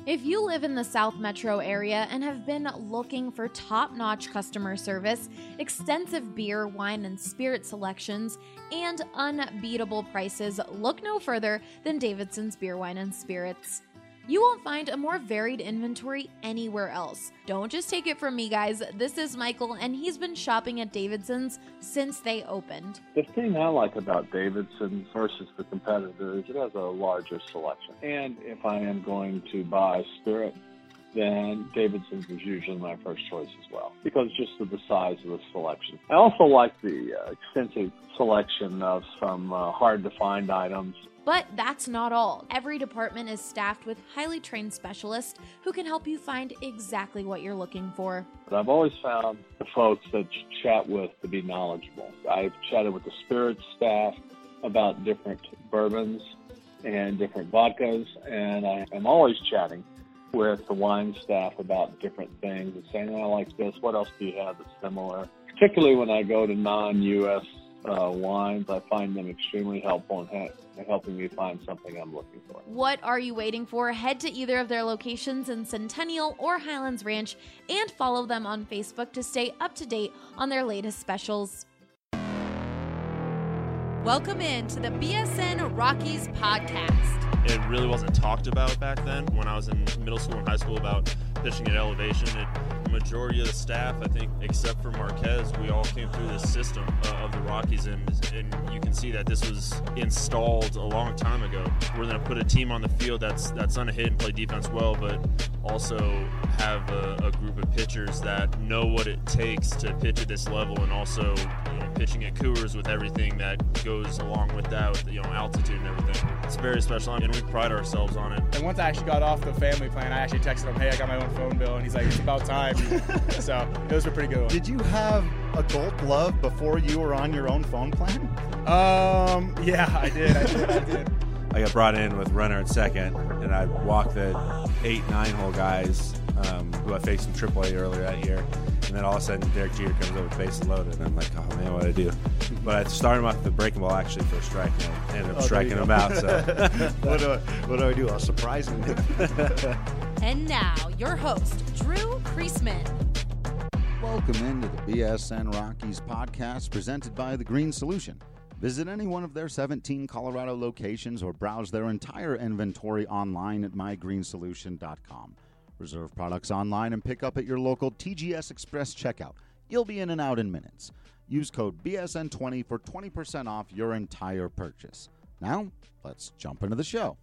If you live in the South Metro area and have been looking for top-notch customer service, extensive beer, wine, and spirit selections, and unbeatable prices, look no further than Davidson's Beer, Wine, and Spirits. You won't find a more varied inventory anywhere else. Don't just take it from me, guys. This is Michael, and he's been shopping at Davidson's since they opened. The thing I like about Davidson's versus the competitor is it has a larger selection. And if I am going to buy spirit, then Davidson's is usually my first choice as well, because just of the size of the selection. I also like the extensive selection of some hard-to-find items. But that's not all. Every department is staffed with highly trained specialists who can help you find exactly what you're looking for. But I've always found the folks that you chat with to be knowledgeable. I've chatted with the spirits staff about different bourbons and different vodkas, and I am always chatting with the wine staff about different things and saying, I like this, what else do you have that's similar? Particularly when I go to non-U.S. wines, I find them extremely helpful in helping me find something I'm looking for. What are you waiting for? Head to either of their locations in Centennial or Highlands Ranch and follow them on Facebook to stay up to date on their latest specials. Welcome in to the BSN Rockies podcast. It really wasn't talked about back then when I was in middle school and high school about pitching at elevation. The majority of the staff, I think, except for Marquez, we all came through this system of the Rockies, and you can see that this was installed a long time ago. We're going to put a team on the field that's going to hit and play defense well, but also have a group of pitchers that know what it takes to pitch at this level, and also pitching at Coors with everything that goes along with that, with altitude and everything. It's very special, and we pride ourselves on it. And once I actually got off the family plan, I actually texted him, hey, I got my own phone bill, and he's like, it's about time. So those were pretty good ones. Did you have a Gold Glove before you were on your own phone plan? Yeah, I did. I got brought in with runner at second, and I walked the 8-9 hole guys who I faced in AAA earlier that year. And then all of a sudden, Derek Jeter comes over with bases loaded, and I'm like, oh man, what do I do? But I started him off the breaking ball actually for a strike, and I ended up striking him out. So what do I do? I'll surprise him. And now, your host, Drew Priestman. Welcome into the BSN Rockies podcast presented by The Green Solution. Visit any one of their 17 Colorado locations or browse their entire inventory online at mygreensolution.com. Reserve products online and pick up at your local TGS Express checkout. You'll be in and out in minutes. Use code BSN20 for 20% off your entire purchase. Now, let's jump into the show.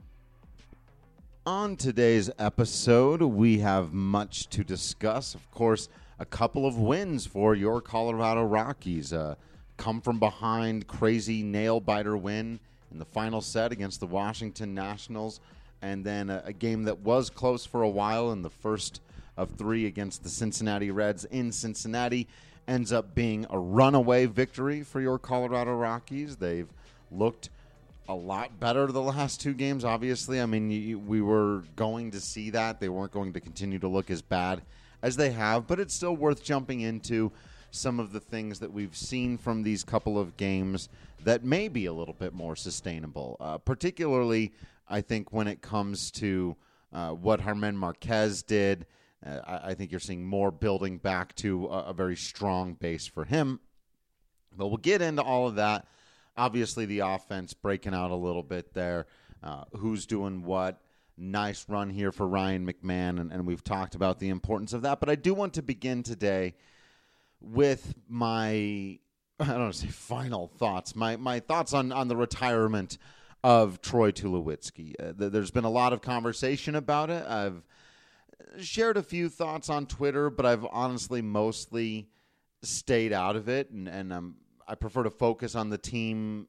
On today's episode, we have much to discuss. Of course, a couple of wins for your Colorado Rockies. Come from behind, crazy nail-biter win in the final set against the Washington Nationals. And then a game that was close for a while in the first of three against the Cincinnati Reds in Cincinnati ends up being a runaway victory for your Colorado Rockies. They've looked a lot better the last two games, obviously. I mean, we were going to see that. They weren't going to continue to look as bad as they have, but it's still worth jumping into some of the things that we've seen from these couple of games that may be a little bit more sustainable, particularly I think when it comes to what Germán Marquez did. I think you're seeing more building back to a very strong base for him. But we'll get into all of that. Obviously, the offense breaking out a little bit there. Who's doing what? Nice run here for Ryan McMahon, and we've talked about the importance of that. But I do want to begin today with my, I don't want to say final thoughts, my thoughts on the retirement of Troy Tulowitzki. There's been a lot of conversation about it. I've shared a few thoughts on Twitter, but I've honestly mostly stayed out of it, and I prefer to focus on the team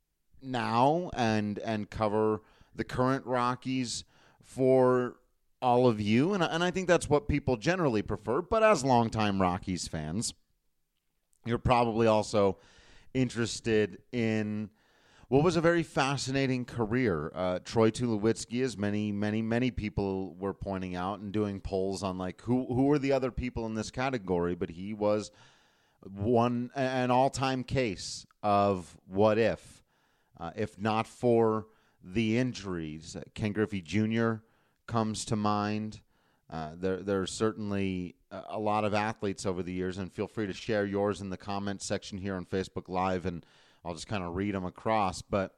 now and cover the current Rockies for all of you, and I think that's what people generally prefer. But as longtime Rockies fans, you're probably also interested in what was a very fascinating career. Troy Tulowitzki, as many people were pointing out and doing polls on like who were the other people in this category, but he was an all-time case of what if not for the injuries. Ken Griffey Jr. comes to mind. There are certainly a lot of athletes over the years, and feel free to share yours in the comments section here on Facebook Live, and I'll just kind of read them across. But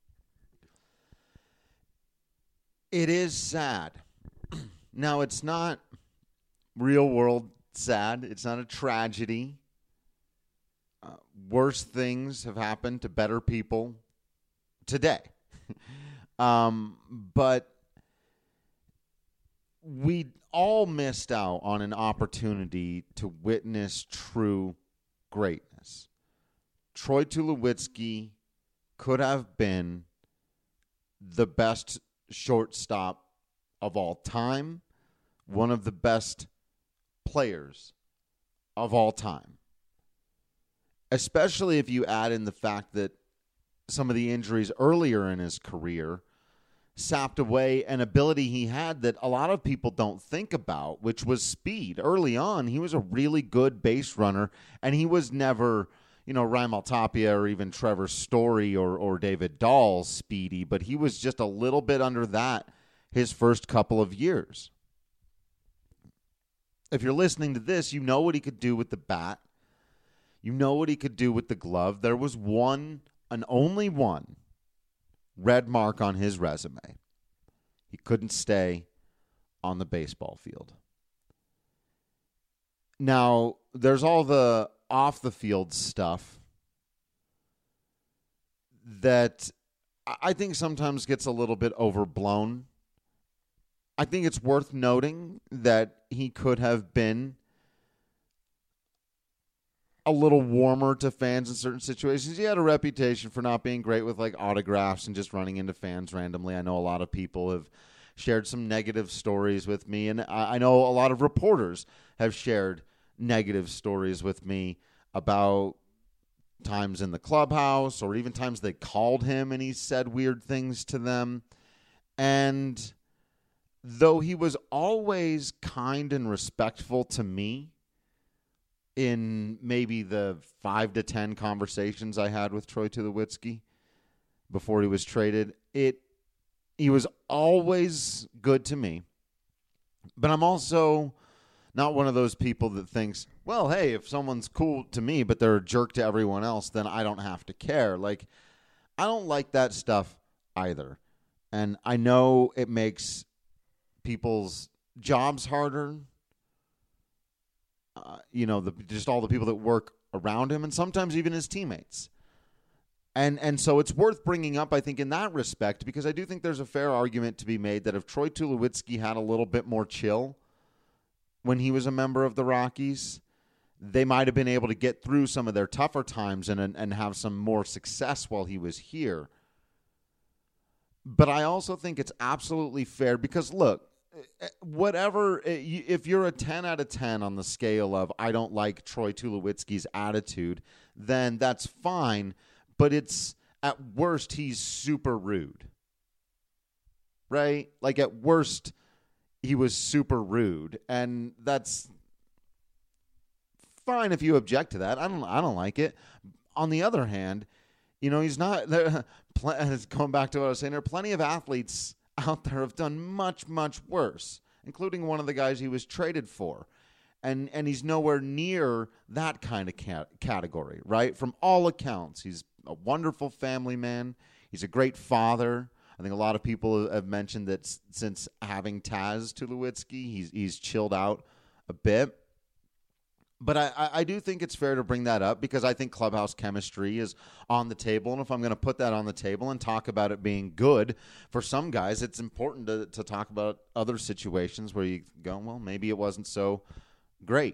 it is sad. Now, it's not real world sad. It's not a tragedy. Worse things have happened to better people today. But we all missed out on an opportunity to witness true greatness. Troy Tulowitzki could have been the best shortstop of all time, one of the best players of all time. Especially if you add in the fact that some of the injuries earlier in his career sapped away an ability he had that a lot of people don't think about, which was speed. Early on, he was a really good base runner, and he was never, Raimel Tapia or even Trevor Story or David Dahl's speedy, but he was just a little bit under that his first couple of years. If you're listening to this, you know what he could do with the bat. You know what he could do with the glove. There was one, and only one, red mark on his resume. He couldn't stay on the baseball field. Now, there's all the off-the-field stuff that I think sometimes gets a little bit overblown. I think it's worth noting that he could have been a little warmer to fans in certain situations. He had a reputation for not being great with autographs and just running into fans randomly. I know a lot of people have shared some negative stories with me, and I know a lot of reporters have shared negative stories with me about times in the clubhouse or even times they called him and he said weird things to them. And though he was always kind and respectful to me, in maybe the 5 to 10 conversations I had with Troy Tulowitzki before he was traded, he was always good to me. But I'm also not one of those people that thinks, well, hey, if someone's cool to me but they're a jerk to everyone else, then I don't have to care. I don't like that stuff either. And I know it makes people's jobs harder. Just all the people that work around him and sometimes even his teammates. And so it's worth bringing up, I think, in that respect, because I do think there's a fair argument to be made that if Troy Tulowitzki had a little bit more chill when he was a member of the Rockies, they might have been able to get through some of their tougher times and have some more success while he was here. But I also think it's absolutely fair because, look, if you're a 10 out of 10 on the scale of I don't like Troy Tulowitzki's attitude, then that's fine. But it's, at worst, he's super rude. Right? At worst, he was super rude. And that's fine if you object to that. I don't like it. On the other hand, he's not there. Going back to what I was saying, there are plenty of athletes out there have done much, much worse, including one of the guys he was traded for. And he's nowhere near that kind of category, right? From all accounts, he's a wonderful family man. He's a great father. I think a lot of people have mentioned that since having Taz Tulowitzki, he's chilled out a bit. But I do think it's fair to bring that up because I think clubhouse chemistry is on the table. And if I'm going to put that on the table and talk about it being good, for some guys, it's important to talk about other situations where you go, well, maybe it wasn't so great.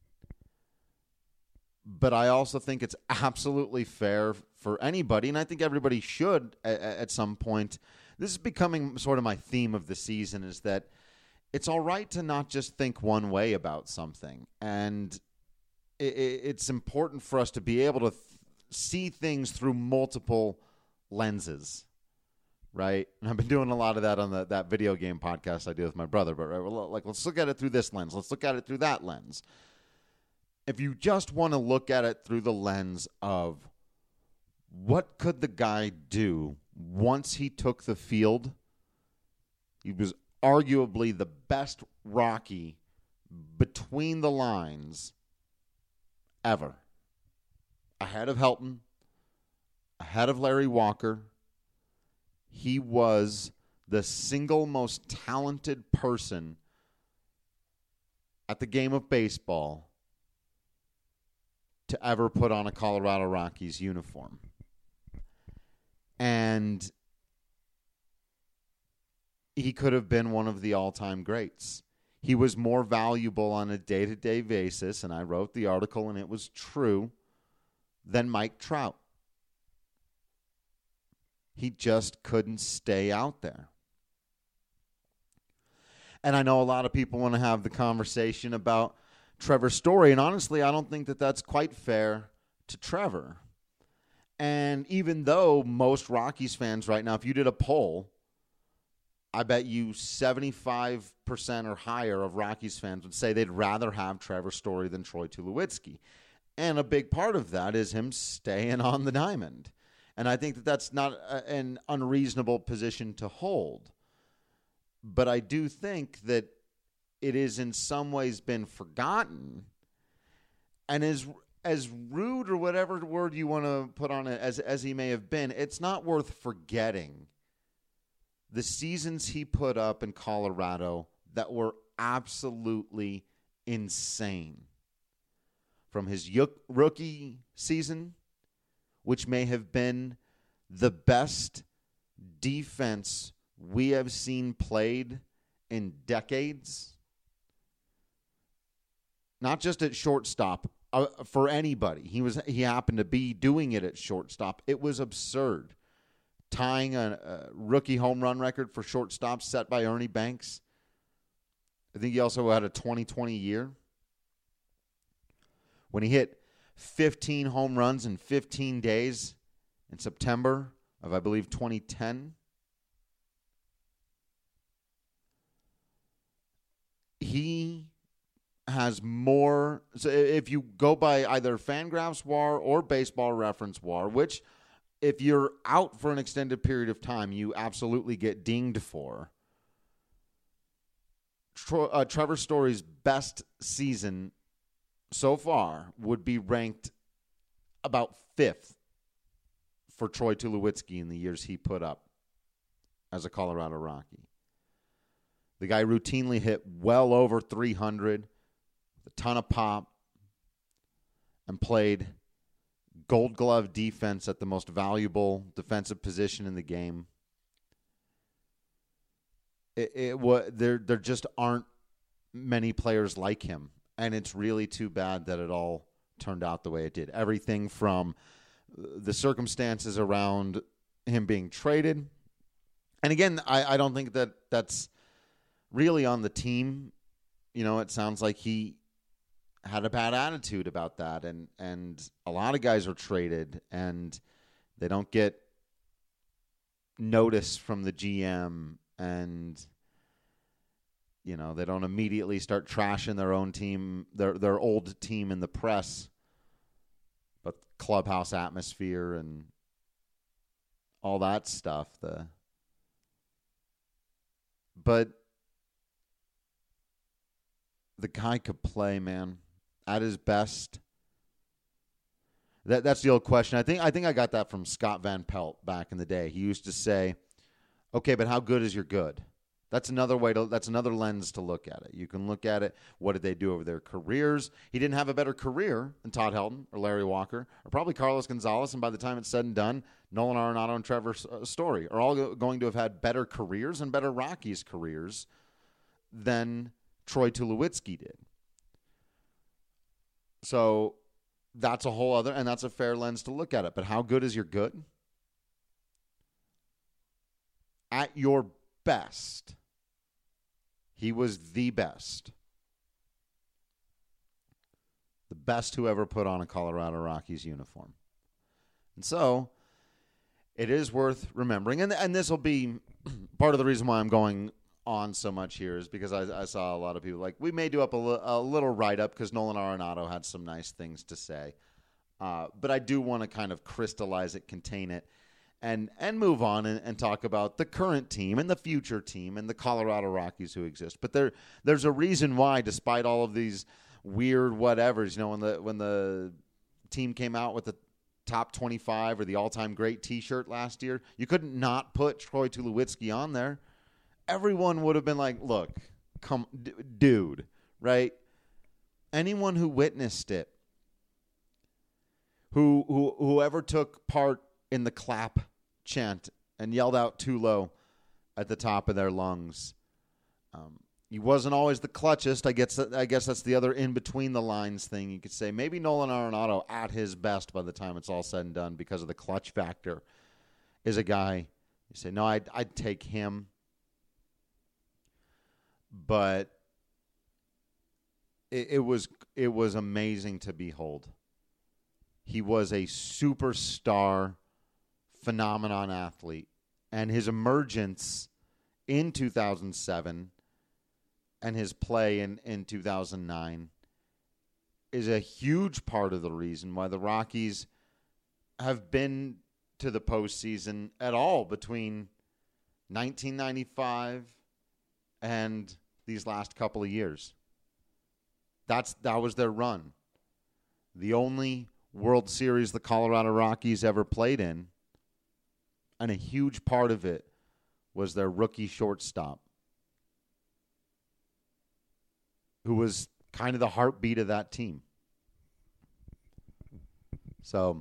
But I also think it's absolutely fair for anybody, and I think everybody should at some point. This is becoming sort of my theme of the season, is that it's all right to not just think one way about something. And it's important for us to be able to see things through multiple lenses, right? And I've been doing a lot of that on that video game podcast I do with my brother. But let's look at it through this lens. Let's look at it through that lens. If you just want to look at it through the lens of what could the guy do once he took the field, he was arguably the best Rocky between the lines ever. Ahead of Helton, ahead of Larry Walker. He was the single most talented person at the game of baseball to ever put on a Colorado Rockies uniform. And he could have been one of the all-time greats. He was more valuable on a day-to-day basis, and I wrote the article, and it was true, than Mike Trout. He just couldn't stay out there. And I know a lot of people want to have the conversation about Trevor Story, and honestly, I don't think that that's quite fair to Trevor. And even though most Rockies fans right now, if you did a poll, I bet you 75% or higher of Rockies fans would say they'd rather have Trevor Story than Troy Tulowitzki. And a big part of that is him staying on the diamond. And I think that that's not an unreasonable position to hold. But I do think that it is in some ways been forgotten. And as rude or whatever word you want to put on it as he may have been, it's not worth forgetting the seasons he put up in Colorado that were absolutely insane. From his rookie season, which may have been the best defense we have seen played in decades. Not just at shortstop, for anybody. He happened to be doing it at shortstop. It was absurd. Tying a rookie home run record for shortstop set by Ernie Banks. I think he also had a 2020 year. When he hit 15 home runs in 15 days in September of, I believe, 2010. He has more. So if you go by either Fangraphs WAR or Baseball Reference WAR, which if you're out for an extended period of time, you absolutely get dinged for. Trevor Story's best season so far would be ranked about 5th for Troy Tulowitzki in the years he put up as a Colorado Rocky. The guy routinely hit well over 300, with a ton of pop, and played Gold Glove defense at the most valuable defensive position in the game. There just aren't many players like him. And it's really too bad that it all turned out the way it did. Everything from the circumstances around him being traded. And again, I don't think that that's really on the team. You know, it sounds like he had a bad attitude about that. And a lot of guys are traded and they don't get notice from the GM, and you know, they don't immediately start trashing their own team, their old team in the press, but clubhouse atmosphere and all that stuff. But the guy could play, man, at his best. That's the old question. I think I got that from Scott Van Pelt back in the day. He used to say, "Okay, but how good is your good?" That's another lens to look at it. You can look at it, what did they do over their careers? He didn't have a better career than Todd Helton or Larry Walker or probably Carlos Gonzalez, and by the time it's said and done, Nolan Arenado and Trevor Story are all going to have had better careers and better Rockies careers than Troy Tulowitzki did. So that's a whole other, and that's a fair lens to look at it. But how good is your good? At your best, he was the best. The best who ever put on a Colorado Rockies uniform. And so it is worth remembering. And this will be part of the reason why I'm going on so much here is because I saw a lot of people like, we may do up a little write-up because Nolan Arenado had some nice things to say. But I do want to kind of crystallize it, contain it, and move on and talk about the current team and the future team and the Colorado Rockies who exist. But there's a reason why, despite all of these weird whatevers, when the team came out with the top 25 or the all-time great T-shirt last year, you couldn't not put Troy Tulowitzki on there. Everyone would have been like, look, come, dude, right? Anyone who witnessed it, whoever took part in the clap chant and yelled out Tulo at the top of their lungs. He wasn't always the clutchest. I guess that's the other in between the lines thing. You could say maybe Nolan Arenado at his best by the time it's all said and done because of the clutch factor is a guy. You say, no, I'd take him. But it was amazing to behold. He was a superstar phenomenon athlete, and his emergence in 2007 and his play in 2009 is a huge part of the reason why the Rockies have been to the postseason at all between 1995 and these last couple of years. That was their run. The only World Series the Colorado Rockies ever played in, and a huge part of it was their rookie shortstop, who was kind of the heartbeat of that team. So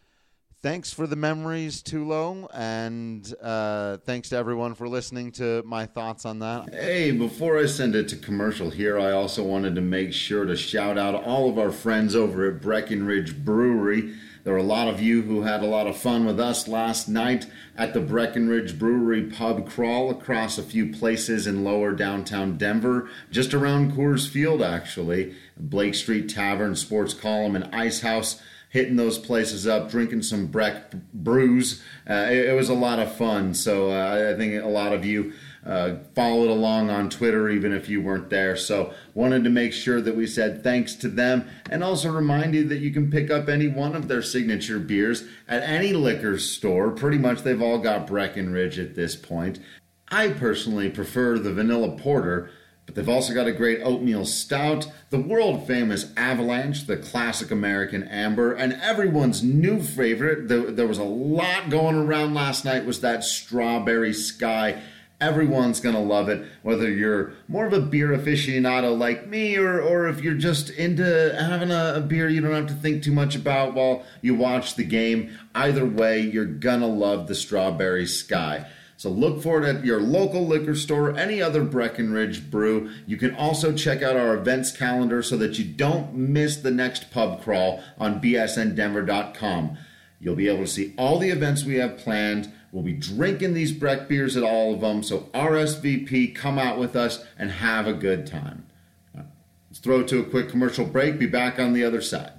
thanks for the memories, Tulo, and thanks to everyone for listening to my thoughts on that. Hey, before I send it to commercial here, I also wanted to make sure to shout out all of our friends over at Breckenridge Brewery. There were a lot of you who had a lot of fun with us last night at the Breckenridge Brewery pub crawl across a few places in lower downtown Denver, just around Coors Field, actually. Blake Street Tavern, Sports Column, and Ice House, hitting those places up, drinking some Breck brews. It was a lot of fun, so I think a lot of you followed along on Twitter, even if you weren't there. So wanted to make sure that we said thanks to them, and also remind you that you can pick up any one of their signature beers at any liquor store. Pretty much they've all got Breckenridge at this point. I personally prefer the vanilla porter, but they've also got a great oatmeal stout, the world-famous Avalanche, the classic American amber, and everyone's new favorite, there was a lot going around last night, was that Strawberry Sky. Everyone's going to love it, whether you're more of a beer aficionado like me or if you're just into having a beer you don't have to think too much about while you watch the game. Either way, you're going to love the Strawberry Sky. So look for it at your local liquor store, any other Breckenridge brew. You can also check out our events calendar so that you don't miss the next pub crawl on bsndenver.com. You'll be able to see all the events we have planned. We'll be drinking these Breck beers at all of them, so RSVP, come out with us, and have a good time. Let's throw it to a quick commercial break. Be back on the other side.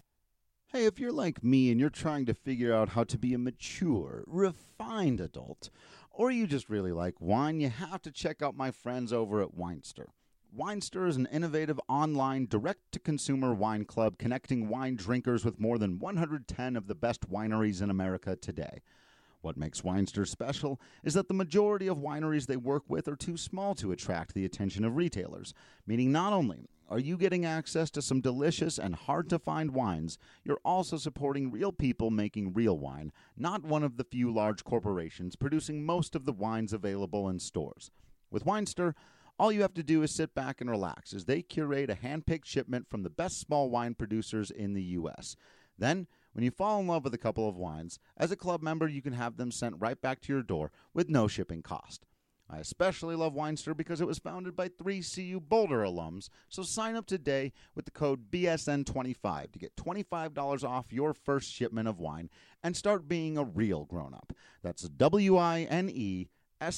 Hey, if you're like me and you're trying to figure out how to be a mature, refined adult, or you just really like wine, you have to check out my friends over at Winester. Winester is an innovative online direct-to-consumer wine club connecting wine drinkers with more than 110 of the best wineries in America today. What makes Winester special is that the majority of wineries they work with are too small to attract the attention of retailers, meaning not only are you getting access to some delicious and hard-to-find wines, you're also supporting real people making real wine, not one of the few large corporations producing most of the wines available in stores. With Winester, all you have to do is sit back and relax as they curate a hand-picked shipment from the best small wine producers in the U.S. Then, when you fall in love with a couple of wines, as a club member, you can have them sent right back to your door with no shipping cost. I especially love Winester because it was founded by 3 CU Boulder alums, so sign up today with the code BSN25 to get $25 off your first shipment of wine and start being a real grown-up. That's WINESTYR.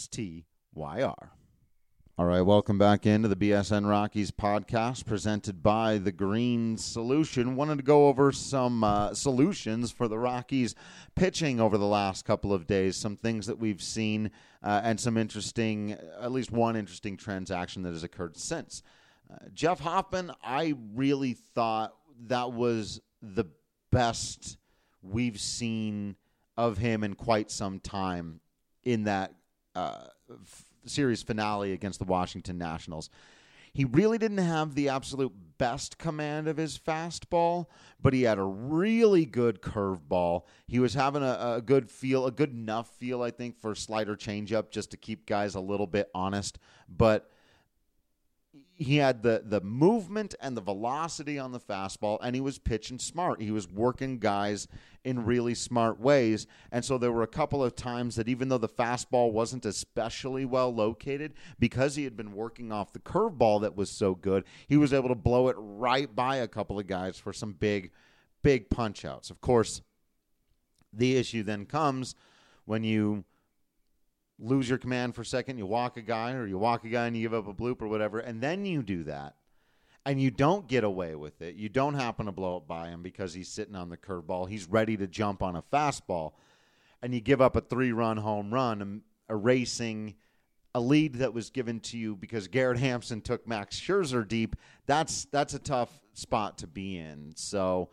All right, welcome back into the BSN Rockies podcast presented by The Green Solution. Wanted to go over some solutions for the Rockies pitching over the last couple of days, some things that we've seen and some interesting, at least one interesting transaction that has occurred since. Jeff Hoffman, I really thought that was the best we've seen of him in quite some time in that series finale against the Washington Nationals. He really didn't have the absolute best command of his fastball, but he had a really good curveball. He was having a good feel, a good enough feel, I think, for slider changeup just to keep guys a little bit honest. But he had the movement and the velocity on the fastball, and he was pitching smart. He was working guys in really smart ways. And so there were a couple of times that even though the fastball wasn't especially well located, because he had been working off the curveball that was so good, he was able to blow it right by a couple of guys for some big punch outs. Of course, the issue then comes when you lose your command for a second, you walk a guy, or you walk a guy and you give up a bloop or whatever, and then you do that, and you don't get away with it. You don't happen to blow it by him because he's sitting on the curveball. He's ready to jump on a fastball, and you give up a 3-run home run, erasing a lead that was given to you because Garrett Hampson took Max Scherzer deep. That's a tough spot to be in. So,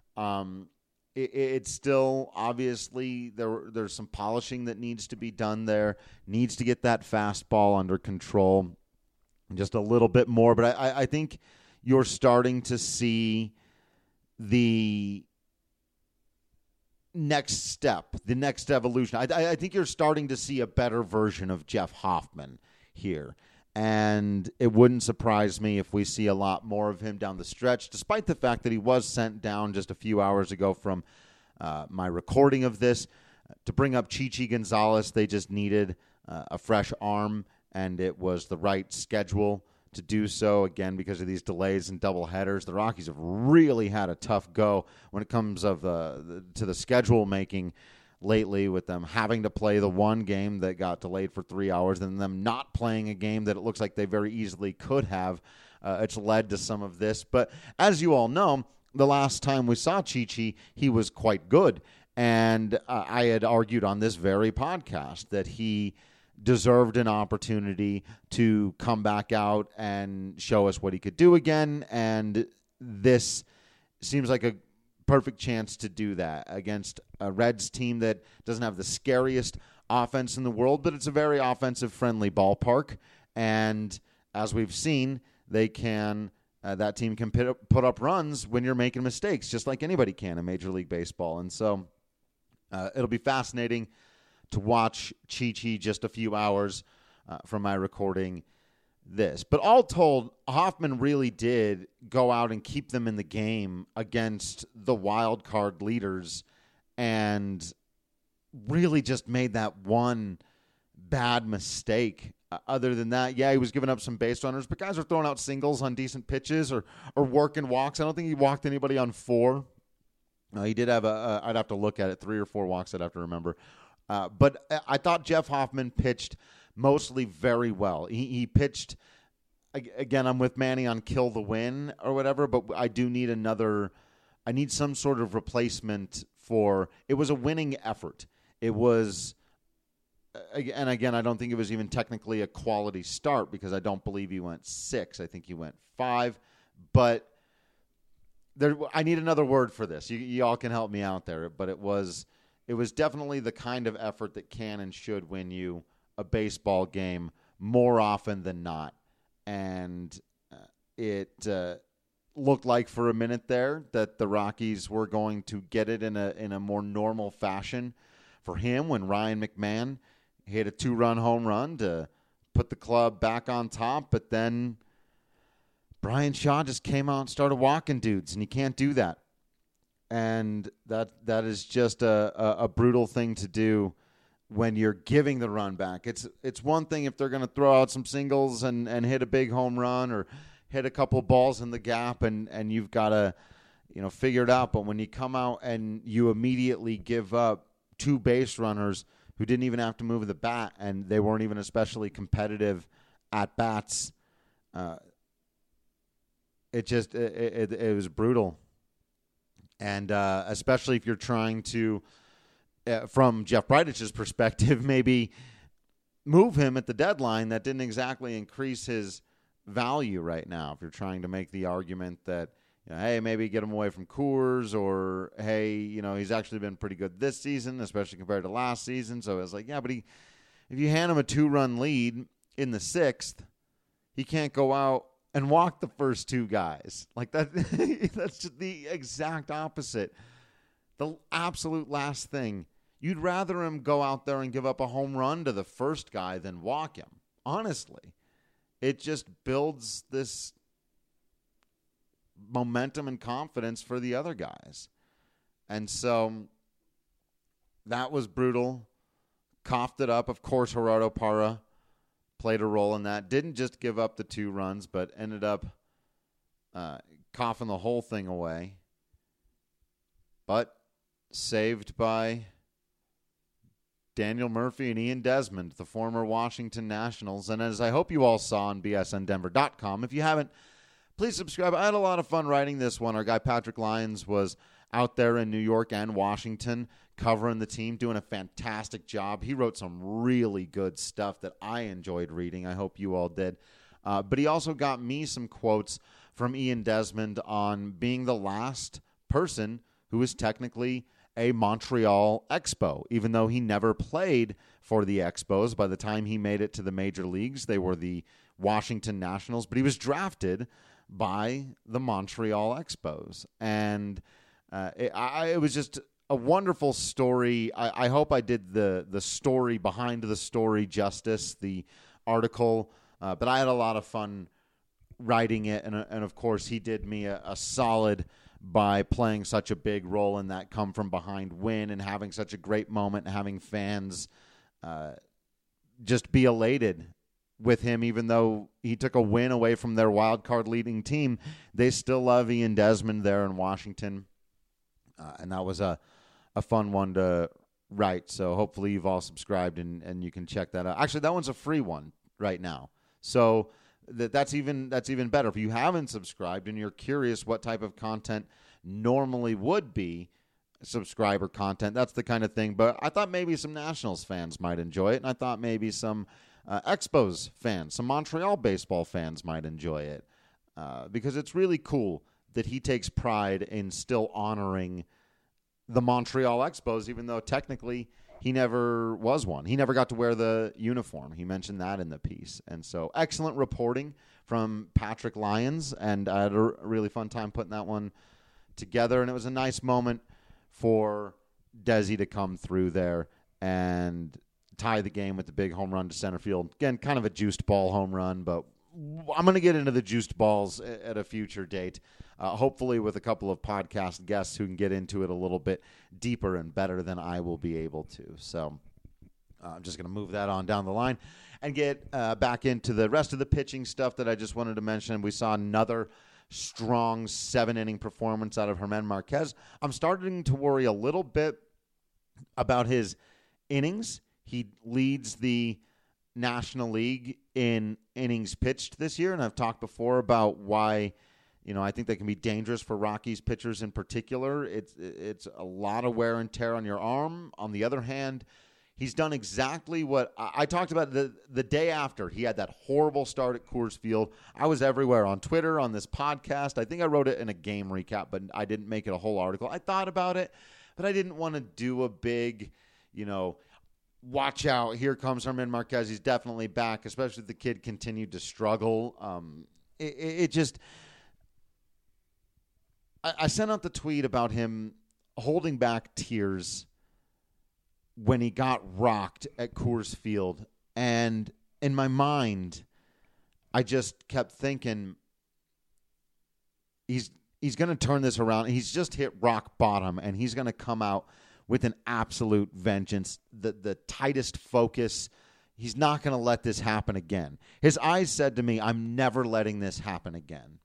it's still obviously there's some polishing that needs to be done there. Needs to get that fastball under control just a little bit more. But I think you're starting to see the next step, the next evolution. I think you're starting to see a better version of Jeff Hoffman here. And it wouldn't surprise me if we see a lot more of him down the stretch, despite the fact that he was sent down just a few hours ago from my recording of this. To bring up Chichi Gonzalez, they just needed a fresh arm, and it was the right schedule to do so. Again, because of these delays and double headers, the Rockies have really had a tough go when it comes to the schedule making lately, with them having to play the one game that got delayed for 3 hours and them not playing a game that it looks like they very easily could have. It's led to some of this. But as you all know, the last time we saw Chichi, he was quite good. And I had argued on this very podcast that he deserved an opportunity to come back out and show us what he could do again. And this seems like a perfect chance to do that against a Reds team that doesn't have the scariest offense in the world, but it's a very offensive-friendly ballpark. And as we've seen, they can that team can put up runs when you're making mistakes, just like anybody can in Major League Baseball. And so it'll be fascinating to watch Chichi just a few hours from my recording this. But all told, Hoffman really did go out and keep them in the game against the wild card leaders, and really just made that one bad mistake. Other than that, yeah, he was giving up some base runners, but guys are throwing out singles on decent pitches or working walks. I don't think he walked anybody on 4. He did have I'd have to look at it, 3 or 4 walks I'd have to remember. But I thought Jeff Hoffman pitched mostly very well. He pitched, again, I'm with Manny on kill the win or whatever, but I do need I need some sort of replacement for, it was a winning effort. It was, and again, I don't think it was even technically a quality start because I don't believe he went 6. I think he went 5. But I need another word for this. You all can help me out there. But it was definitely the kind of effort that can and should win you a baseball game more often than not. And it looked like for a minute there that the Rockies were going to get it in a more normal fashion for him when Ryan McMahon hit a 2-run home run to put the club back on top. But then Brian Shaw just came out and started walking dudes, and you can't do that. And that is just a brutal thing to do when you're giving the run back. It's one thing if they're going to throw out some singles and hit a big home run or hit a couple balls in the gap, and you've got to figure it out. But when you come out and you immediately give up 2 base runners who didn't even have to move the bat, and they weren't even especially competitive at bats, it was brutal. And especially if you're trying to, from Jeff Breidich's perspective, maybe move him at the deadline, that didn't exactly increase his value right now. If you're trying to make the argument that hey, maybe get him away from Coors, or hey, he's actually been pretty good this season, especially compared to last season. So I was like, yeah, but if you hand him a 2-run lead in the 6th, he can't go out and walk the first 2 guys. Like that. That's just the exact opposite. The absolute last thing. You'd rather him go out there and give up a home run to the first guy than walk him. Honestly, it just builds this momentum and confidence for the other guys. And so that was brutal. Coughed it up. Of course, Gerardo Parra played a role in that. Didn't just give up the 2 runs, but ended up coughing the whole thing away. But saved by Daniel Murphy and Ian Desmond, the former Washington Nationals. And as I hope you all saw on bsndenver.com, if you haven't, please subscribe. I had a lot of fun writing this one. Our guy Patrick Lyons was out there in New York and Washington covering the team, doing a fantastic job. He wrote some really good stuff that I enjoyed reading. I hope you all did. But he also got me some quotes from Ian Desmond on being the last person who was technically a Montreal Expo, even though he never played for the Expos. By the time he made it to the major leagues, they were the Washington Nationals, but he was drafted by the Montreal Expos. And it was just a wonderful story. I hope I did the story behind the story justice, the article, but I had a lot of fun writing it. And of course, he did me a solid by playing such a big role in that come from behind win and having such a great moment and having fans just be elated with him. Even though he took a win away from their wild card leading team, they still love Ian Desmond there in Washington. And that was a fun one to write. So hopefully you've all subscribed and you can check that out. Actually, that one's a free one right now. So that's even better. If you haven't subscribed and you're curious what type of content normally would be subscriber content, that's the kind of thing. But I thought maybe some Nationals fans might enjoy it, and I thought maybe some Expos fans, some Montreal baseball fans might enjoy it, because it's really cool that he takes pride in still honoring the Montreal Expos, even though technically he never was one. He never got to wear the uniform. He mentioned that in the piece. And so excellent reporting from Patrick Lyons, and I had a really fun time putting that one together. And it was a nice moment for Desi to come through there and tie the game with the big home run to center field. Again, kind of a juiced ball home run, but I'm going to get into the juiced balls at a future date, hopefully with a couple of podcast guests who can get into it a little bit deeper and better than I will be able to. So I'm just going to move that on down the line and get back into the rest of the pitching stuff that I just wanted to mention. We saw another strong 7-inning performance out of Germán Marquez. I'm starting to worry a little bit about his innings. He leads the National League in innings pitched this year, and I've talked before about why, I think they can be dangerous for Rockies pitchers in particular. It's a lot of wear and tear on your arm. On the other hand, he's done exactly what I talked about the day after he had that horrible start at Coors Field. I was everywhere on Twitter, on this podcast. I think I wrote it in a game recap, but I didn't make it a whole article. I thought about it, but I didn't want to do a big, watch out, here comes Germán Marquez. He's definitely back, especially if the kid continued to struggle. I sent out the tweet about him holding back tears when he got rocked at Coors Field. And in my mind, I just kept thinking, he's going to turn this around. He's just hit rock bottom, and he's going to come out with an absolute vengeance, the tightest focus. He's not going to let this happen again. His eyes said to me, I'm never letting this happen again.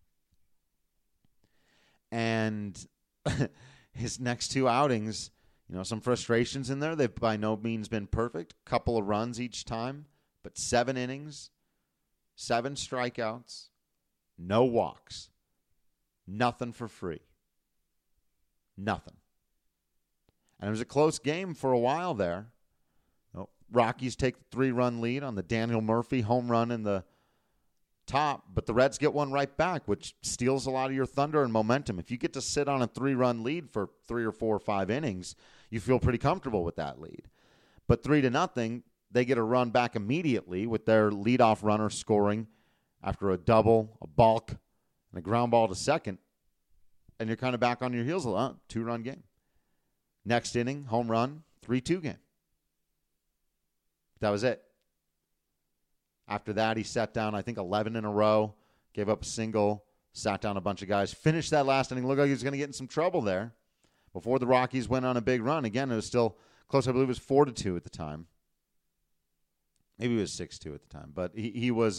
And his next 2 outings, some frustrations in there. They've by no means been perfect. Couple of runs each time, but 7 innings, 7 strikeouts, no walks, nothing for free. Nothing. And it was a close game for a while there. Rockies take the 3-run lead on the Daniel Murphy home run in the top, but the Reds get one right back, which steals a lot of your thunder and momentum. If you get to sit on a 3-run lead for 3 or 4 or 5 innings, you feel pretty comfortable with that lead. But 3-0, they get a run back immediately with their leadoff runner scoring after a double, a balk, and a ground ball to second, and you're kind of back on your heels. 2-run game. Next inning, home run, 3-2 game. That was it. After that, he sat down, I think, 11 in a row, gave up a single, sat down a bunch of guys, finished that last inning. Looked like he was going to get in some trouble there before the Rockies went on a big run. Again, it was still close. I believe it was 4-2 at the time. Maybe it was 6-2 at the time. But he was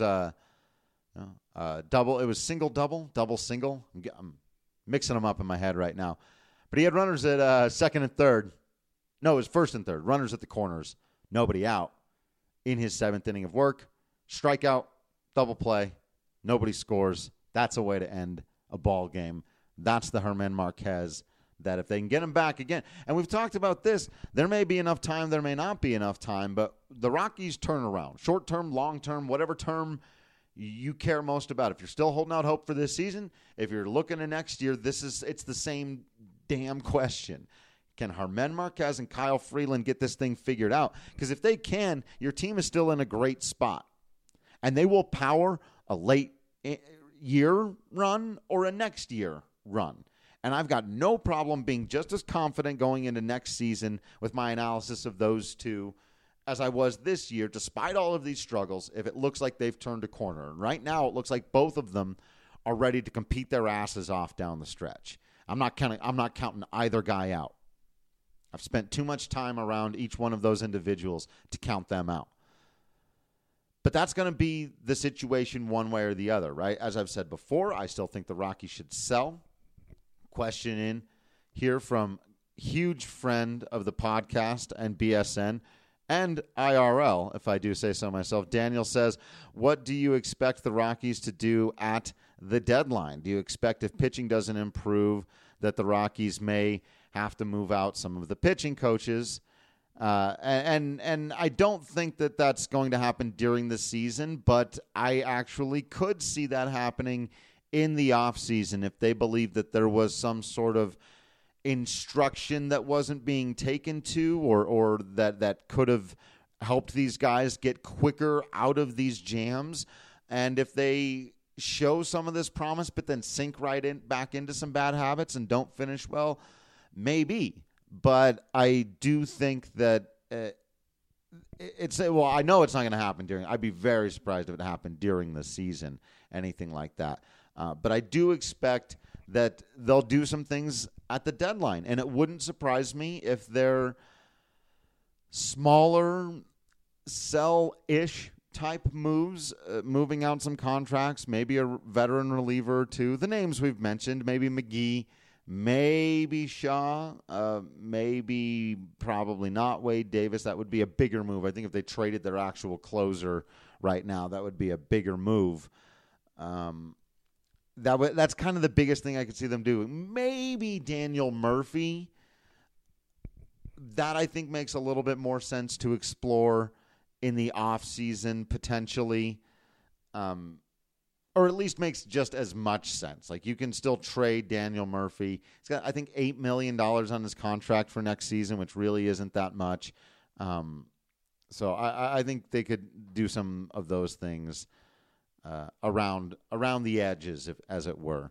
double. It was single-double, double-single. I'm mixing them up in my head right now. But he had runners at second and third. No, it was first and third. Runners at the corners. Nobody out in his 7th inning of work. Strikeout, double play, nobody scores. That's a way to end a ball game. That's the Germán Marquez that if they can get him back again. And we've talked about this. There may be enough time, there may not be enough time, but the Rockies turn around. Short term, long term, whatever term you care most about. If you're still holding out hope for this season, if you're looking at next year, it's the same damn question. Can Germán Marquez and Kyle Freeland get this thing figured out? Because if they can, your team is still in a great spot. And they will power a late year run or a next year run. And I've got no problem being just as confident going into next season with my analysis of those two as I was this year, despite all of these struggles, if it looks like they've turned a corner. And right now, it looks like both of them are ready to compete their asses off down the stretch. I'm not counting either guy out. I've spent too much time around each one of those individuals to count them out. But that's going to be the situation one way or the other, right? As I've said before, I still think the Rockies should sell. Question in here from huge friend of the podcast and BSN and IRL, if I do say so myself. Daniel says, what do you expect the Rockies to do at the deadline? Do you expect if pitching doesn't improve that the Rockies may have to move out some of the pitching coaches? And I don't think that that's going to happen during the season, but I actually could see that happening in the offseason if they believe that there was some sort of instruction that wasn't being taken to or that could have helped these guys get quicker out of these jams. And if they show some of this promise but then sink back into some bad habits and don't finish well, maybe. But I do think that I know it's not going to happen I'd be very surprised if it happened during the season, anything like that. But I do expect that they'll do some things at the deadline. And it wouldn't surprise me if they're smaller, sell-ish type moves, moving out some contracts, maybe a veteran reliever or two. The names we've mentioned, maybe McGee, maybe Shaw, probably not Wade Davis. That would be a bigger move. I think if they traded their actual closer right now, that would be a bigger move. That's kind of the biggest thing I could see them do. Maybe Daniel Murphy. That I think makes a little bit more sense to explore in the offseason potentially. Or at least makes just as much sense. Like, you can still trade Daniel Murphy. He's got, I think, $8 million on his contract for next season, which really isn't that much. So I think they could do some of those things around the edges, as it were.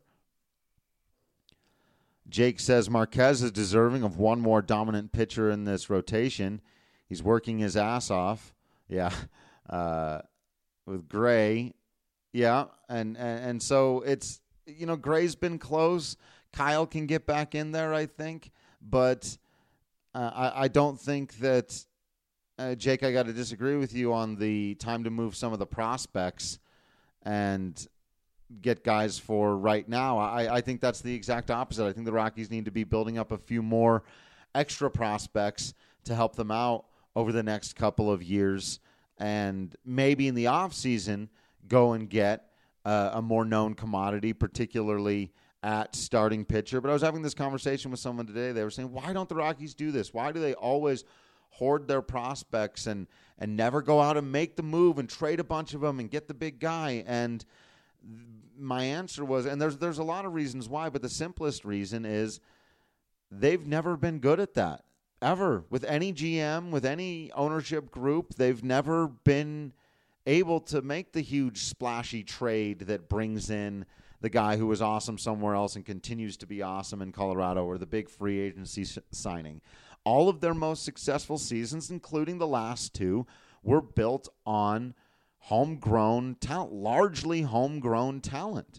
Jake says Marquez is deserving of one more dominant pitcher in this rotation. He's working his ass off. Yeah. With Gray. Yeah, and so it's, Gray's been close. Kyle can get back in there, I think. But I don't think that, Jake, I got to disagree with you on the time to move some of the prospects and get guys for right now. I think that's the exact opposite. I think the Rockies need to be building up a few more extra prospects to help them out over the next couple of years. And maybe in the offseason, go and get a more known commodity, particularly at starting pitcher. But I was having this conversation with someone today. They were saying, why don't the Rockies do this? Why do they always hoard their prospects and never go out and make the move and trade a bunch of them and get the big guy? And my answer was, and there's a lot of reasons why, but the simplest reason is they've never been good at that, ever. With any GM, with any ownership group, they've never been able to make the huge splashy trade that brings in the guy who was awesome somewhere else and continues to be awesome in Colorado, or the big free agency signing. All of their most successful seasons, including the last two, were built on homegrown talent, largely homegrown talent.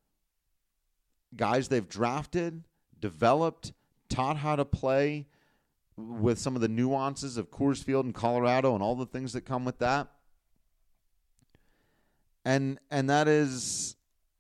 Guys they've drafted, developed, taught how to play with some of the nuances of Coors Field in Colorado and all the things that come with that. And that is,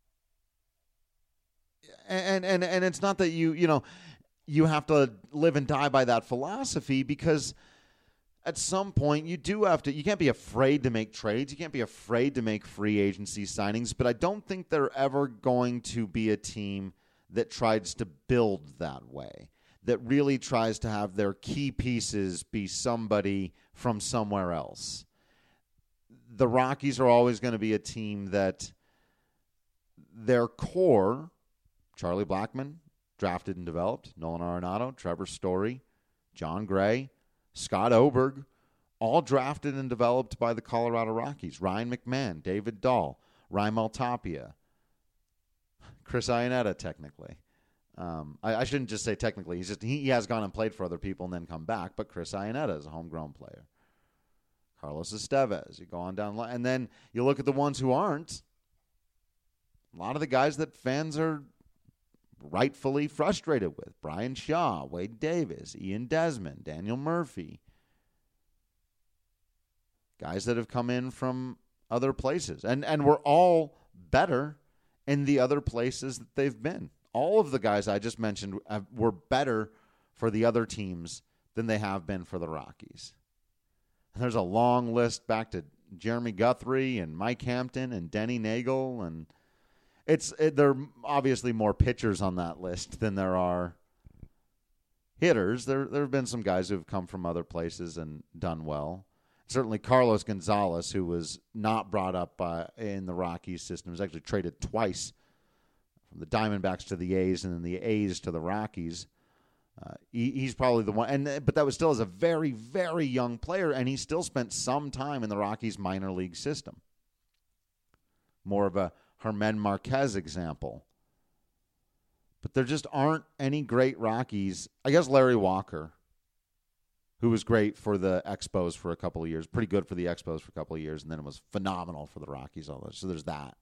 and it's not that you have to live and die by that philosophy, because at some point you can't be afraid to make trades. You can't be afraid to make free agency signings, but I don't think they're ever going to be a team that tries to build that way, that really tries to have their key pieces be somebody from somewhere else. The Rockies are always going to be a team that their core, Charlie Blackmon, drafted and developed, Nolan Arenado, Trevor Story, John Gray, Scott Oberg, all drafted and developed by the Colorado Rockies. Ryan McMahon, David Dahl, Raimel Tapia, Chris Iannetta, technically. I shouldn't just say technically. He has gone and played for other people and then come back, but Chris Iannetta is a homegrown player. Carlos Estevez. You go on down, and then you look at the ones who aren't. A lot of the guys that fans are rightfully frustrated with: Brian Shaw, Wade Davis, Ian Desmond, Daniel Murphy. Guys that have come in from other places. And we're all better in the other places that they've been. All of the guys I just mentioned were better for the other teams than they have been for the Rockies. And there's a long list back to Jeremy Guthrie and Mike Hampton and Denny Nagel, and there are obviously more pitchers on that list than there are hitters. There have been some guys who have come from other places and done well. Certainly Carlos Gonzalez, who was not brought up in the Rockies system, was actually traded twice from the Diamondbacks to the A's and then the A's to the Rockies. He's probably the one, but that was still as a very, very young player, and he still spent some time in the Rockies minor league system. More of a Germán Marquez example. But there just aren't any great Rockies. I guess Larry Walker, who was great for the Expos for a couple of years, pretty good for the Expos for a couple of years, and then it was phenomenal for the Rockies. So there's that.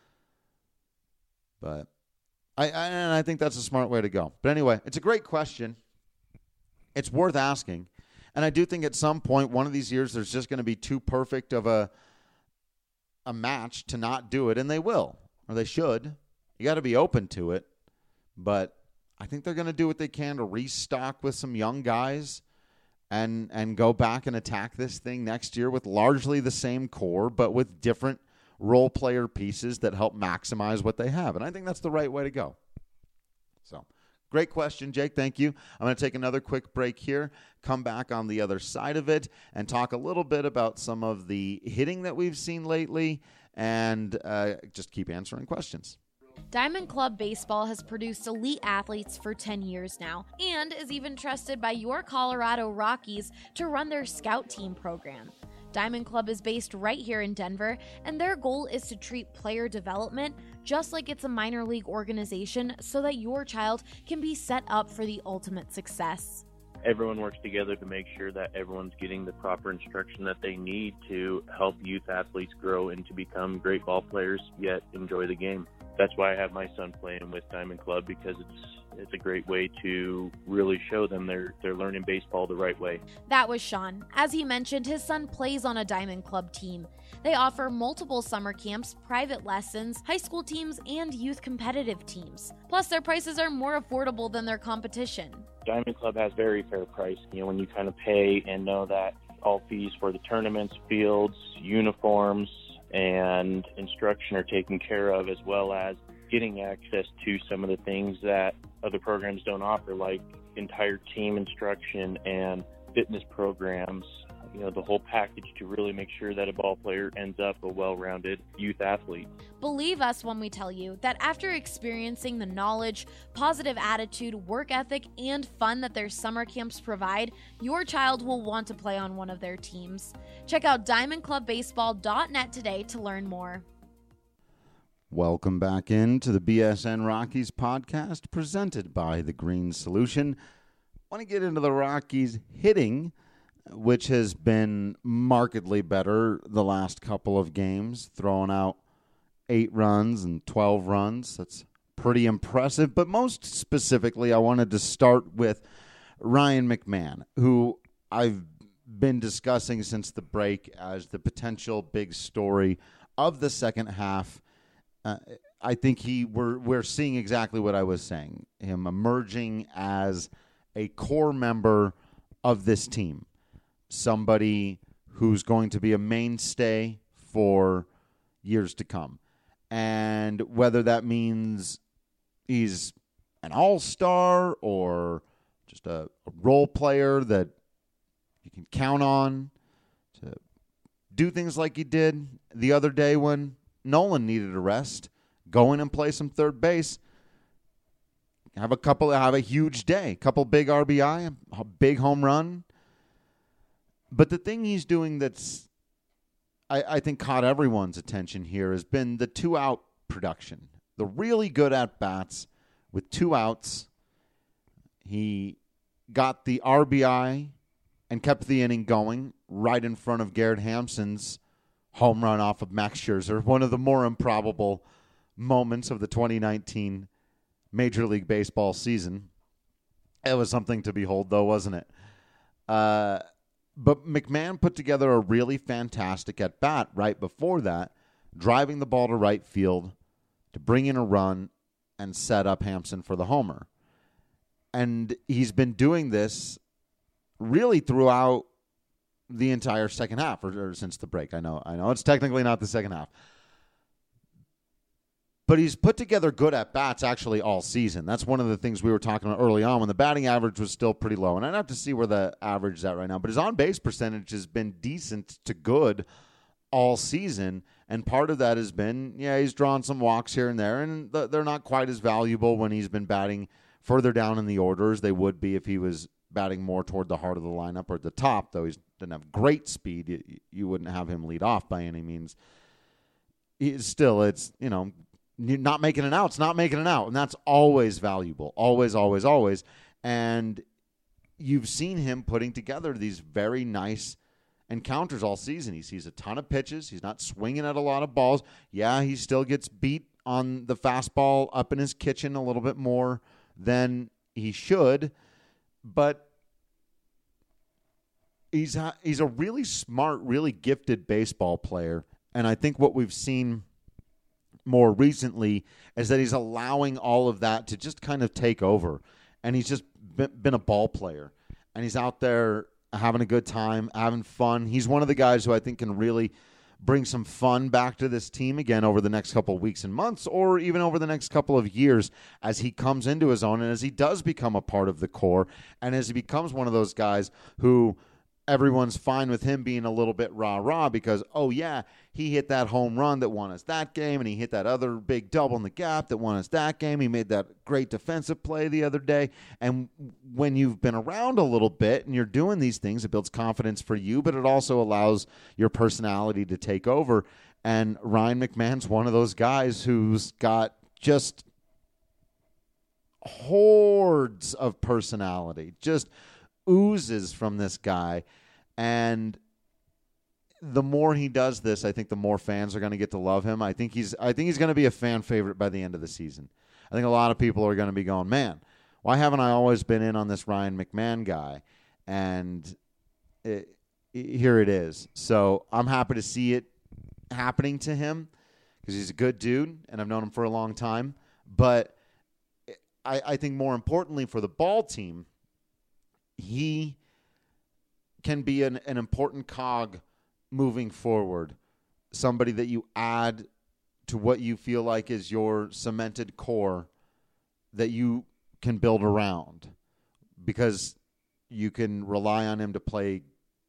But I think that's a smart way to go. But anyway, it's a great question. It's worth asking. And I do think at some point, one of these years, there's just going to be too perfect of a match to not do it, and they will, or they should. You got to be open to it. But I think they're going to do what they can to restock with some young guys and go back and attack this thing next year with largely the same core, but with different role player pieces that help maximize what they have. And I think that's the right way to go. So, great question, Jake. Thank you. I'm going to take another quick break here, come back on the other side of it, and talk a little bit about some of the hitting that we've seen lately, and just keep answering questions. Diamond Club Baseball has produced elite athletes for 10 years now and is even trusted by your Colorado Rockies to run their scout team program. Diamond Club is based right here in Denver, and their goal is to treat player development just like it's a minor league organization so that your child can be set up for the ultimate success. Everyone works together to make sure that everyone's getting the proper instruction that they need to help youth athletes grow and to become great ball players, yet enjoy the game. That's why I have my son playing with Diamond Club, because it's a great way to really show them they're learning baseball the right way. That was Sean. As he mentioned, his son plays on a Diamond Club team. They offer multiple summer camps, private lessons, high school teams, and youth competitive teams. Plus, their prices are more affordable than their competition. Diamond Club has very fair price. When you kind of pay and know that all fees for the tournaments, fields, uniforms, and instruction are taken care of, as well as getting access to some of the things that other programs don't offer, like entire team instruction and fitness programs. the whole package to really make sure that a ball player ends up a well-rounded youth athlete. Believe us when we tell you that after experiencing the knowledge, positive attitude, work ethic, and fun that their summer camps provide, your child will want to play on one of their teams. Check out diamondclubbaseball.net today to learn more. Welcome back into the BSN Rockies podcast presented by The Green Solution. I want to get into the Rockies hitting, which has been markedly better the last couple of games, throwing out 8 runs and 12 runs. That's pretty impressive. But most specifically, I wanted to start with Ryan McMahon, who I've been discussing since the break as the potential big story of the second half. I think we're seeing exactly what I was saying, him emerging as a core member of this team, somebody who's going to be a mainstay for years to come. And whether that means he's an all-star or just a role player that you can count on to do things like he did the other day when Nolan needed a rest, go in and play some third base, have a huge day, couple big RBI, a big home run. But the thing he's doing that's, I think, caught everyone's attention here has been the 2-out production. The really good at-bats with 2 outs. He got the RBI and kept the inning going right in front of Garrett Hampson's home run off of Max Scherzer, one of the more improbable moments of the 2019 Major League Baseball season. It was something to behold, though, wasn't it? But McMahon put together a really fantastic at-bat right before that, driving the ball to right field to bring in a run and set up Hampson for the homer. And he's been doing this really throughout the entire second half, or since the break. I know it's technically not the second half. But he's put together good at-bats actually all season. That's one of the things we were talking about early on when the batting average was still pretty low. And I'd have to see where the average is at right now. But his on-base percentage has been decent to good all season. And part of that has been, he's drawn some walks here and there. And they're not quite as valuable when he's been batting further down in the order as they would be if he was batting more toward the heart of the lineup or at the top, though he doesn't have great speed. You wouldn't have him lead off by any means. It's not making an out. It's not making an out, and that's always valuable. Always, always, always. And you've seen him putting together these very nice encounters all season. He sees a ton of pitches. He's not swinging at a lot of balls. Yeah, he still gets beat on the fastball up in his kitchen a little bit more than he should, but he's a really smart, really gifted baseball player. And I think what we've seen more recently is that he's allowing all of that to just kind of take over. And he's just been a ball player. And he's out there having a good time, having fun. He's one of the guys who I think can really bring some fun back to this team again over the next couple of weeks and months, or even over the next couple of years as he comes into his own and as he does become a part of the core and as he becomes one of those guys who everyone's fine with him being a little bit rah-rah because, oh, yeah, he hit that home run that won us that game, and he hit that other big double in the gap that won us that game. He made that great defensive play the other day. And when you've been around a little bit and you're doing these things, it builds confidence for you, but it also allows your personality to take over. And Ryan McMahon's one of those guys who's got just hordes of personality, just oozes from this guy. And the more he does this, I think the more fans are going to get to love him. I think he's going to be a fan favorite by the end of the season. I think a lot of people are going to be going, man, why haven't I always been in on this Ryan McMahon guy? And here it is. So I'm happy to see it happening to him because he's a good dude, and I've known him for a long time. But I think more importantly for the ball team, he can be an important cog moving forward, somebody that you add to what you feel like is your cemented core that you can build around because you can rely on him to play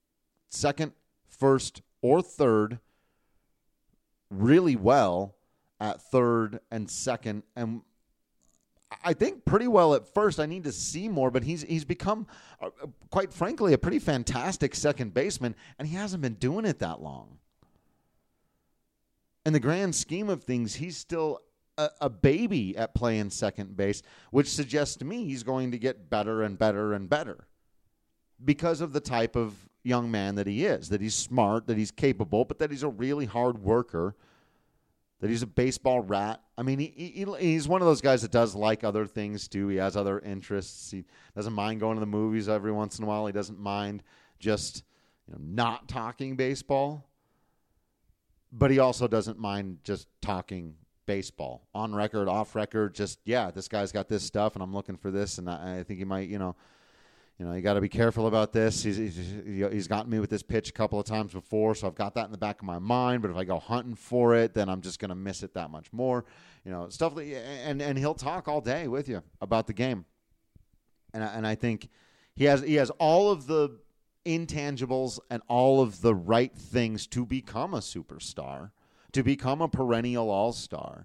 second, first, or third really well at third and second, and I think pretty well at first. I need to see more, but he's become, quite frankly, a pretty fantastic second baseman, and he hasn't been doing it that long. In the grand scheme of things, he's still a baby at playing second base, which suggests to me he's going to get better and better and better because of the type of young man that he is, that he's smart, that he's capable, but that he's a really hard worker, that he's a baseball rat. I mean, he's one of those guys that does like other things, too. He has other interests. He doesn't mind going to the movies every once in a while. He doesn't mind just not talking baseball. But he also doesn't mind just talking baseball. On record, off record, just, this guy's got this stuff, and I'm looking for this, and I think he might, you got to be careful about this. He's gotten me with this pitch a couple of times before, so I've got that in the back of my mind. But if I go hunting for it, then I'm just going to miss it that much more. Stuff that, and he'll talk all day with you about the game. And I think he has all of the intangibles and all of the right things to become a superstar, to become a perennial all-star.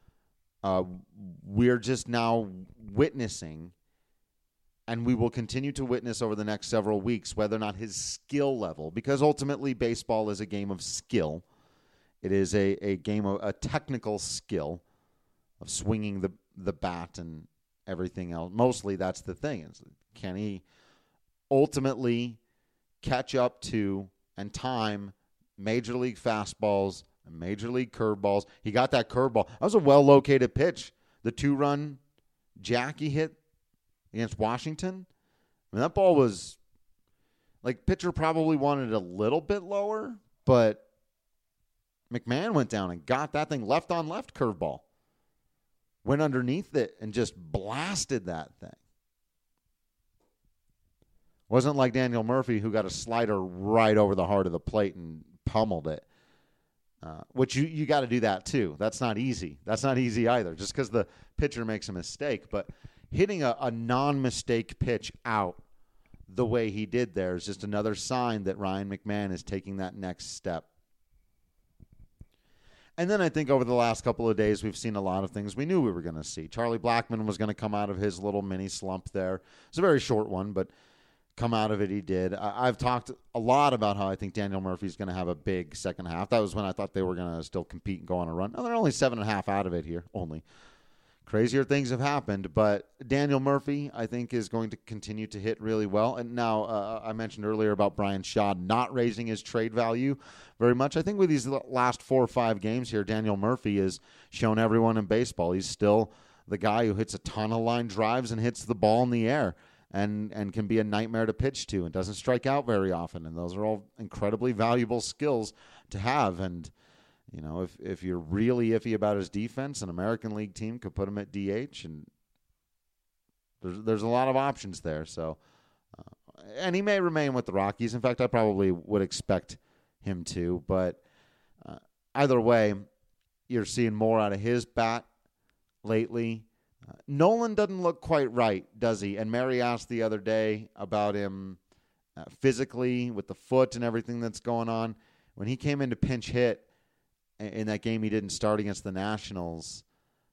We're just now witnessing, and we will continue to witness over the next several weeks, whether or not his skill level, because ultimately baseball is a game of skill. It is a game of a technical skill of swinging the bat and everything else. Mostly that's the thing. Can he ultimately catch up to and time major league fastballs and major league curveballs? He got that curveball. That was a well-located pitch. The 2-run jack he hit against Washington. I mean, that ball was, pitcher probably wanted it a little bit lower, but McMahon went down and got that thing left on left curveball. Went underneath it and just blasted that thing. Wasn't like Daniel Murphy, who got a slider right over the heart of the plate and pummeled it. Which you got to do that too. That's not easy. That's not easy either, just because the pitcher makes a mistake. But hitting a non-mistake pitch out the way he did there is just another sign that Ryan McMahon is taking that next step. And then I think over the last couple of days, we've seen a lot of things we knew we were going to see. Charlie Blackmon was going to come out of his little mini slump there. It's a very short one, but come out of it he did. I've talked a lot about how I think Daniel Murphy's going to have a big second half. That was when I thought they were going to still compete and go on a run. Now, they're only 7.5 out of it here, only. Crazier things have happened, but Daniel Murphy, I think, is going to continue to hit really well. And now I mentioned earlier about Brian Shaw not raising his trade value very much. I think with these last 4 or 5 games here, Daniel Murphy has shown everyone in baseball he's still the guy who hits a ton of line drives and hits the ball in the air and can be a nightmare to pitch to and doesn't strike out very often. And those are all incredibly valuable skills to have. And if you're really iffy about his defense, an American League team could put him at DH, and there's a lot of options there. So, and he may remain with the Rockies. In fact, I probably would expect him to. But either way, you're seeing more out of his bat lately. Nolan doesn't look quite right, does he? And Mary asked the other day about him physically with the foot and everything that's going on. When he came in to pinch hit in that game he didn't start against the Nationals,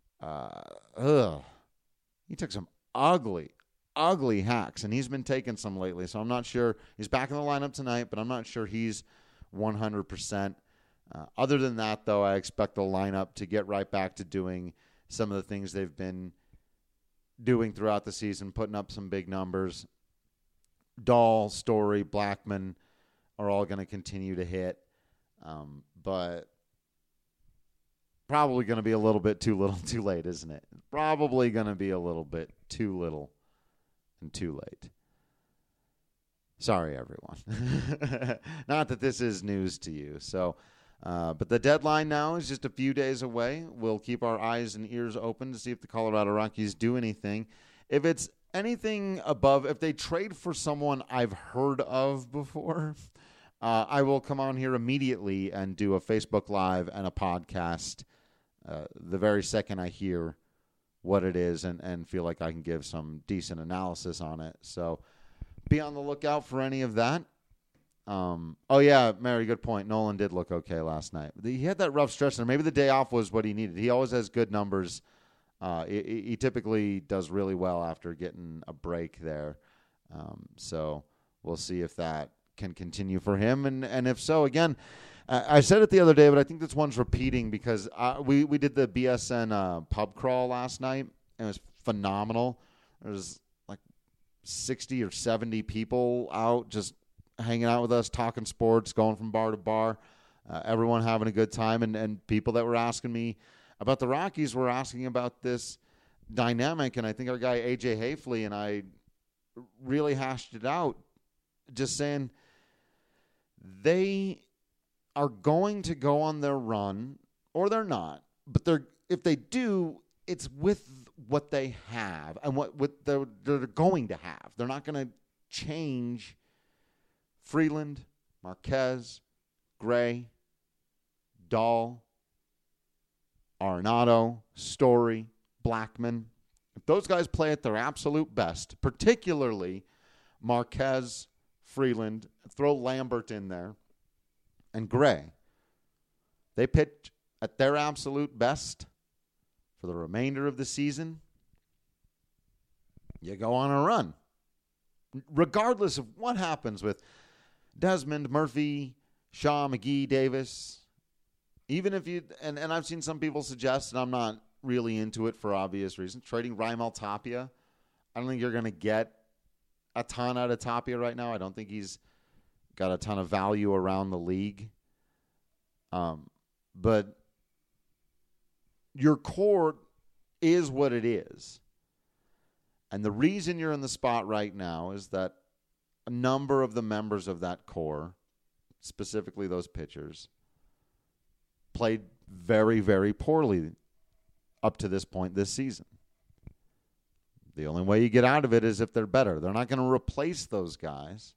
he took some ugly hacks, and he's been taking some lately. So I'm not sure. He's back in the lineup tonight, but I'm not sure he's 100%. Other than that, though, I expect the lineup to get right back to doing some of the things they've been doing throughout the season, putting up some big numbers. Dahl, Story, Blackmon are all going to continue to hit, but probably going to be a little bit too little too late, isn't it? Probably going to be a little bit too little and too late. Sorry, everyone. Not that this is news to you. So, but the deadline now is just a few days away. We'll keep our eyes and ears open to see if the Colorado Rockies do anything. If it's anything above, if they trade for someone I've heard of before, I will come on here immediately and do a Facebook Live and a podcast the very second I hear what it is and feel like I can give some decent analysis on it. So be on the lookout for any of that. Oh, yeah, Mary, good point. Nolan did look okay last night. He had that rough stretch there. Maybe the day off was what he needed. He always has good numbers. He typically does really well after getting a break there. So we'll see if that can continue for him. And if so, again, I said it the other day, but I think this one's repeating because we did the BSN pub crawl last night, and it was phenomenal. There was like 60 or 70 people out just hanging out with us, talking sports, going from bar to bar, everyone having a good time. And people that were asking me about the Rockies were asking about this dynamic, and I think our guy AJ Hafley and I really hashed it out, just saying they are going to go on their run, or they're not, but if they do, it's with what they have and what they're going to have. They're not going to change Freeland, Marquez, Gray, Dahl, Arenado, Story, Blackman. If those guys play at their absolute best, particularly Marquez, Freeland, throw Lambert in there, and Gray, they pitch at their absolute best for the remainder of the season, you go on a run. Regardless of what happens with Desmond, Murphy, Shaw, McGee, Davis, even if you, and I've seen some people suggest, and I'm not really into it for obvious reasons, trading Raimel Tapia. I don't think you're going to get a ton out of Tapia right now. I don't think he's got a ton of value around the league. But your core is what it is. And the reason you're in the spot right now is that a number of the members of that core, specifically those pitchers, played very, very poorly up to this point this season. The only way you get out of it is if they're better. They're not going to replace those guys.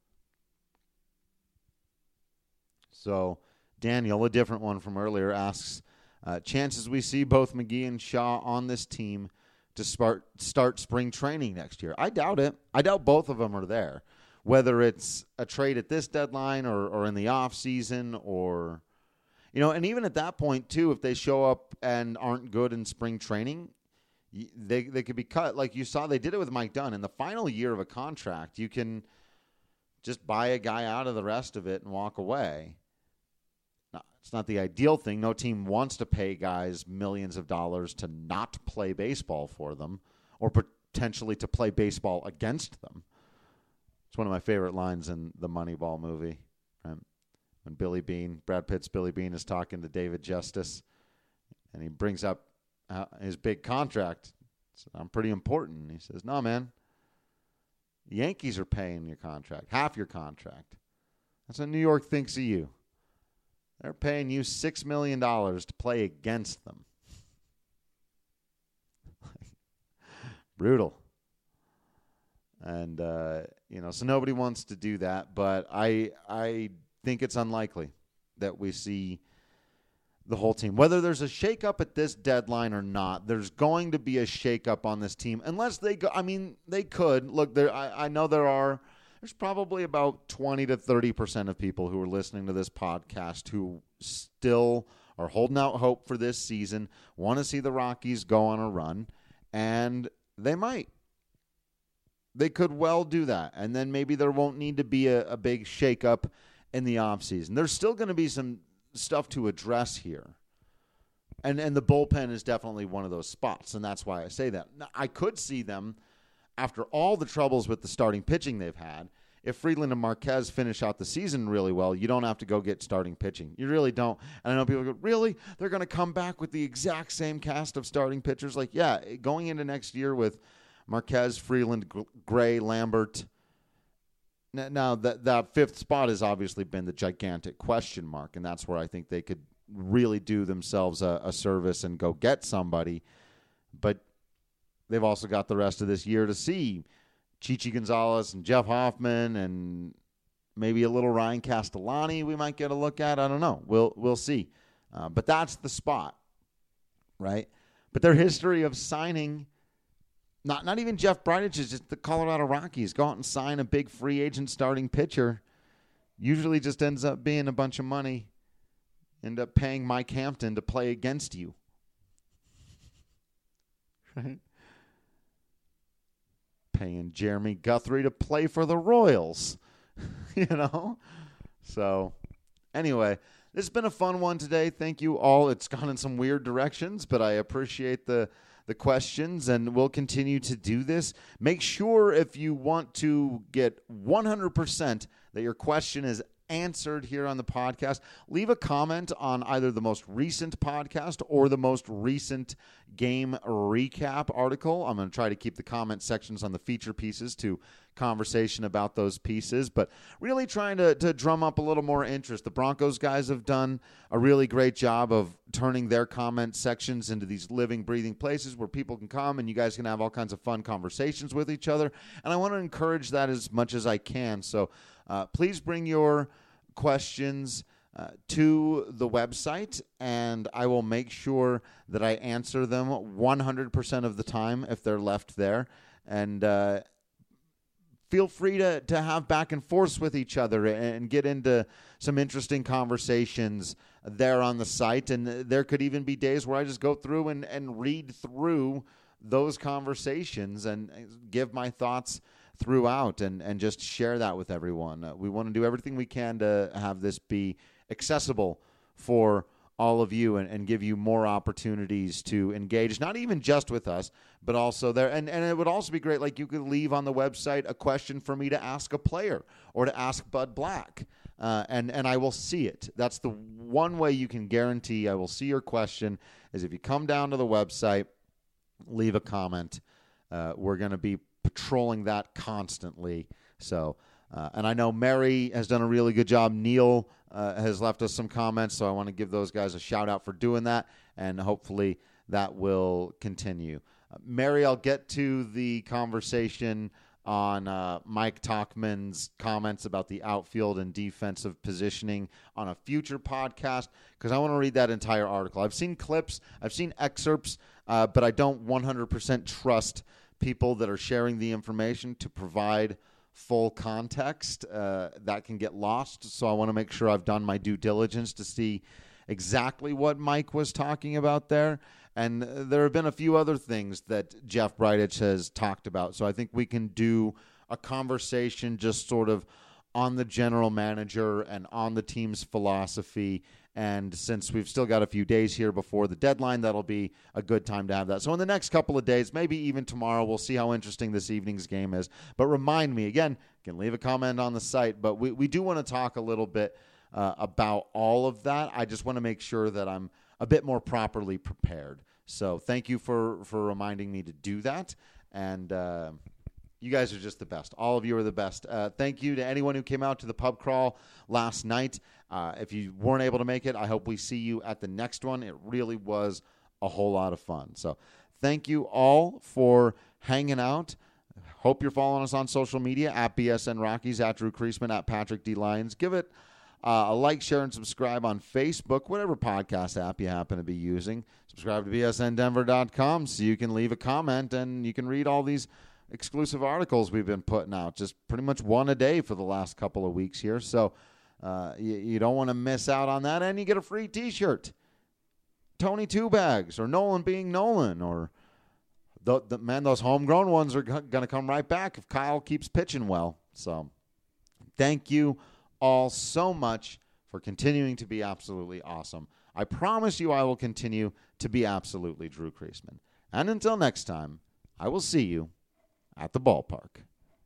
So Daniel, a different one from earlier, asks, chances we see both McGee and Shaw on this team to start spring training next year? I doubt it. I doubt both of them are there. Whether it's a trade at this deadline or in the off season, or, and even at that point too, if they show up and aren't good in spring training, they could be cut. Like you saw, they did it with Mike Dunn. In the final year of a contract, you can just buy a guy out of the rest of it and walk away. Now, it's not the ideal thing. No team wants to pay guys millions of dollars to not play baseball for them, or potentially to play baseball against them. It's one of my favorite lines in the Moneyball movie. Right? When Brad Pitt's Billy Beane is talking to David Justice, and he brings up his big contract. So I'm pretty important. And he says, no, man, the Yankees are paying your contract, half your contract. That's what New York thinks of you. They're paying you $6 million to play against them. Brutal. And, so nobody wants to do that. But I think it's unlikely that we see the whole team. Whether there's a shakeup at this deadline or not, there's going to be a shakeup on this team. Unless they go, they could. Look, I know there's probably about 20 to 30% of people who are listening to this podcast who still are holding out hope for this season, want to see the Rockies go on a run, and they might. They could well do that. And then maybe there won't need to be a big shakeup in the offseason. There's still going to be some stuff to address here. And the bullpen is definitely one of those spots, and that's why I say that. Now, I could see them, after all the troubles with the starting pitching they've had, if Freeland and Marquez finish out the season really well, you don't have to go get starting pitching. You really don't. And I know people go, really? They're going to come back with the exact same cast of starting pitchers? Like, yeah, going into next year with Marquez, Freeland, Gray, Lambert. Now, that fifth spot has obviously been the gigantic question mark, and that's where I think they could really do themselves a service and go get somebody. But they've also got the rest of this year to see Chichi Gonzalez and Jeff Hoffman and maybe a little Ryan Castellani we might get a look at. I don't know. We'll see. But that's the spot, right? But their history of signing, not even Jeff Bridich, just the Colorado Rockies go out and sign a big free agent starting pitcher. usually just ends up being a bunch of money. End up paying Mike Hampton to play against you. Right? Paying Jeremy Guthrie to play for the Royals. You know? So, anyway, this has been a fun one today. Thank you all. It's gone in some weird directions, but I appreciate the questions, and we'll continue to do this. Make sure if you want to get 100% that your question is answered here on the podcast, leave a comment on either the most recent podcast or the most recent game recap article. I'm going to try to keep the comment sections on the feature pieces to conversation about those pieces, but really trying to drum up a little more interest. The Broncos guys have done a really great job of turning their comment sections into these living, breathing places where people can come and you guys can have all kinds of fun conversations with each other, and I want to encourage that as much as I can. So please bring your questions to the website, and I will make sure that I answer them 100% of the time if they're left there. And feel free to have back and forth with each other and get into some interesting conversations there on the site. And there could even be days where I just go through and read through those conversations and give my thoughts throughout and just share that with everyone. We want to do everything we can to have this be accessible for all of you and give you more opportunities to engage, not even just with us, but also there. And it would also be great, like you could leave on the website a question for me to ask a player or to ask Bud Black, and I will see it. That's the one way you can guarantee I will see your question is if you come down to the website, leave a comment. We're going to be patrolling that constantly. So, and I know Mary has done a really good job. Neil has left us some comments, so I want to give those guys a shout out for doing that, and hopefully that will continue. Mary, I'll get to the conversation on Mike Talkman's comments about the outfield and defensive positioning on a future podcast, because I want to read that entire article. I've seen clips, I've seen excerpts, but I don't 100% trust people that are sharing the information to provide full context. That can get lost, so I want to make sure I've done my due diligence to see exactly what Mike was talking about there. And there have been a few other things that Jeff Bridich has talked about, so I think we can do a conversation just sort of on the general manager and on the team's philosophy. And since we've still got a few days here before the deadline, that'll be a good time to have that. So in the next couple of days, maybe even tomorrow, we'll see how interesting this evening's game is. But remind me, again, you can leave a comment on the site, but we do want to talk a little bit about all of that. I just want to make sure that I'm a bit more properly prepared. So thank you for reminding me to do that. And you guys are just the best. All of you are the best. Thank you to anyone who came out to the pub crawl last night. If you weren't able to make it, I hope we see you at the next one. It really was a whole lot of fun. So thank you all for hanging out. Hope you're following us on social media, at BSN Rockies, at Drew Creasman, at Patrick D. Lyons. Give it a like, share, and subscribe on Facebook, whatever podcast app you happen to be using. Subscribe to bsndenver.com so you can leave a comment and you can read all these exclusive articles we've been putting out, just pretty much one a day for the last couple of weeks here. So you don't want to miss out on that, and you get a free T-shirt. Tony Two Bags, or Nolan being Nolan, or those homegrown ones are going to come right back if Kyle keeps pitching well. So thank you all so much for continuing to be absolutely awesome. I promise you I will continue to be absolutely Drew Creasman. And until next time, I will see you at the ballpark.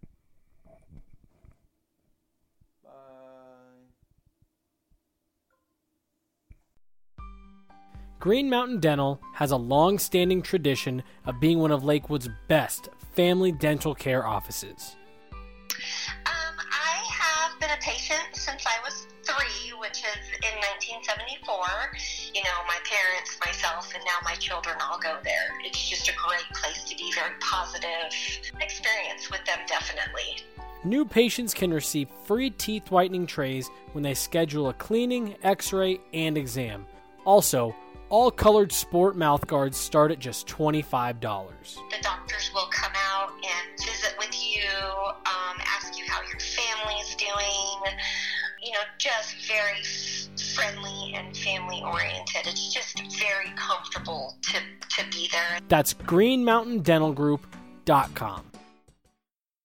Green Mountain Dental has a long-standing tradition of being one of Lakewood's best family dental care offices. I have been a patient since I was 3, which is in 1974. You know, my parents, myself, and now my children all go there. It's just a great place to be, very positive experience with them, definitely. New patients can receive free teeth whitening trays when they schedule a cleaning, x-ray, and exam. Also, all colored sport mouth guards start at just $25. The doctors will come out and visit with you, ask you how your family's doing, just very friendly and family oriented. It's just very comfortable to be there. That's GreenMountainDentalGroup.com.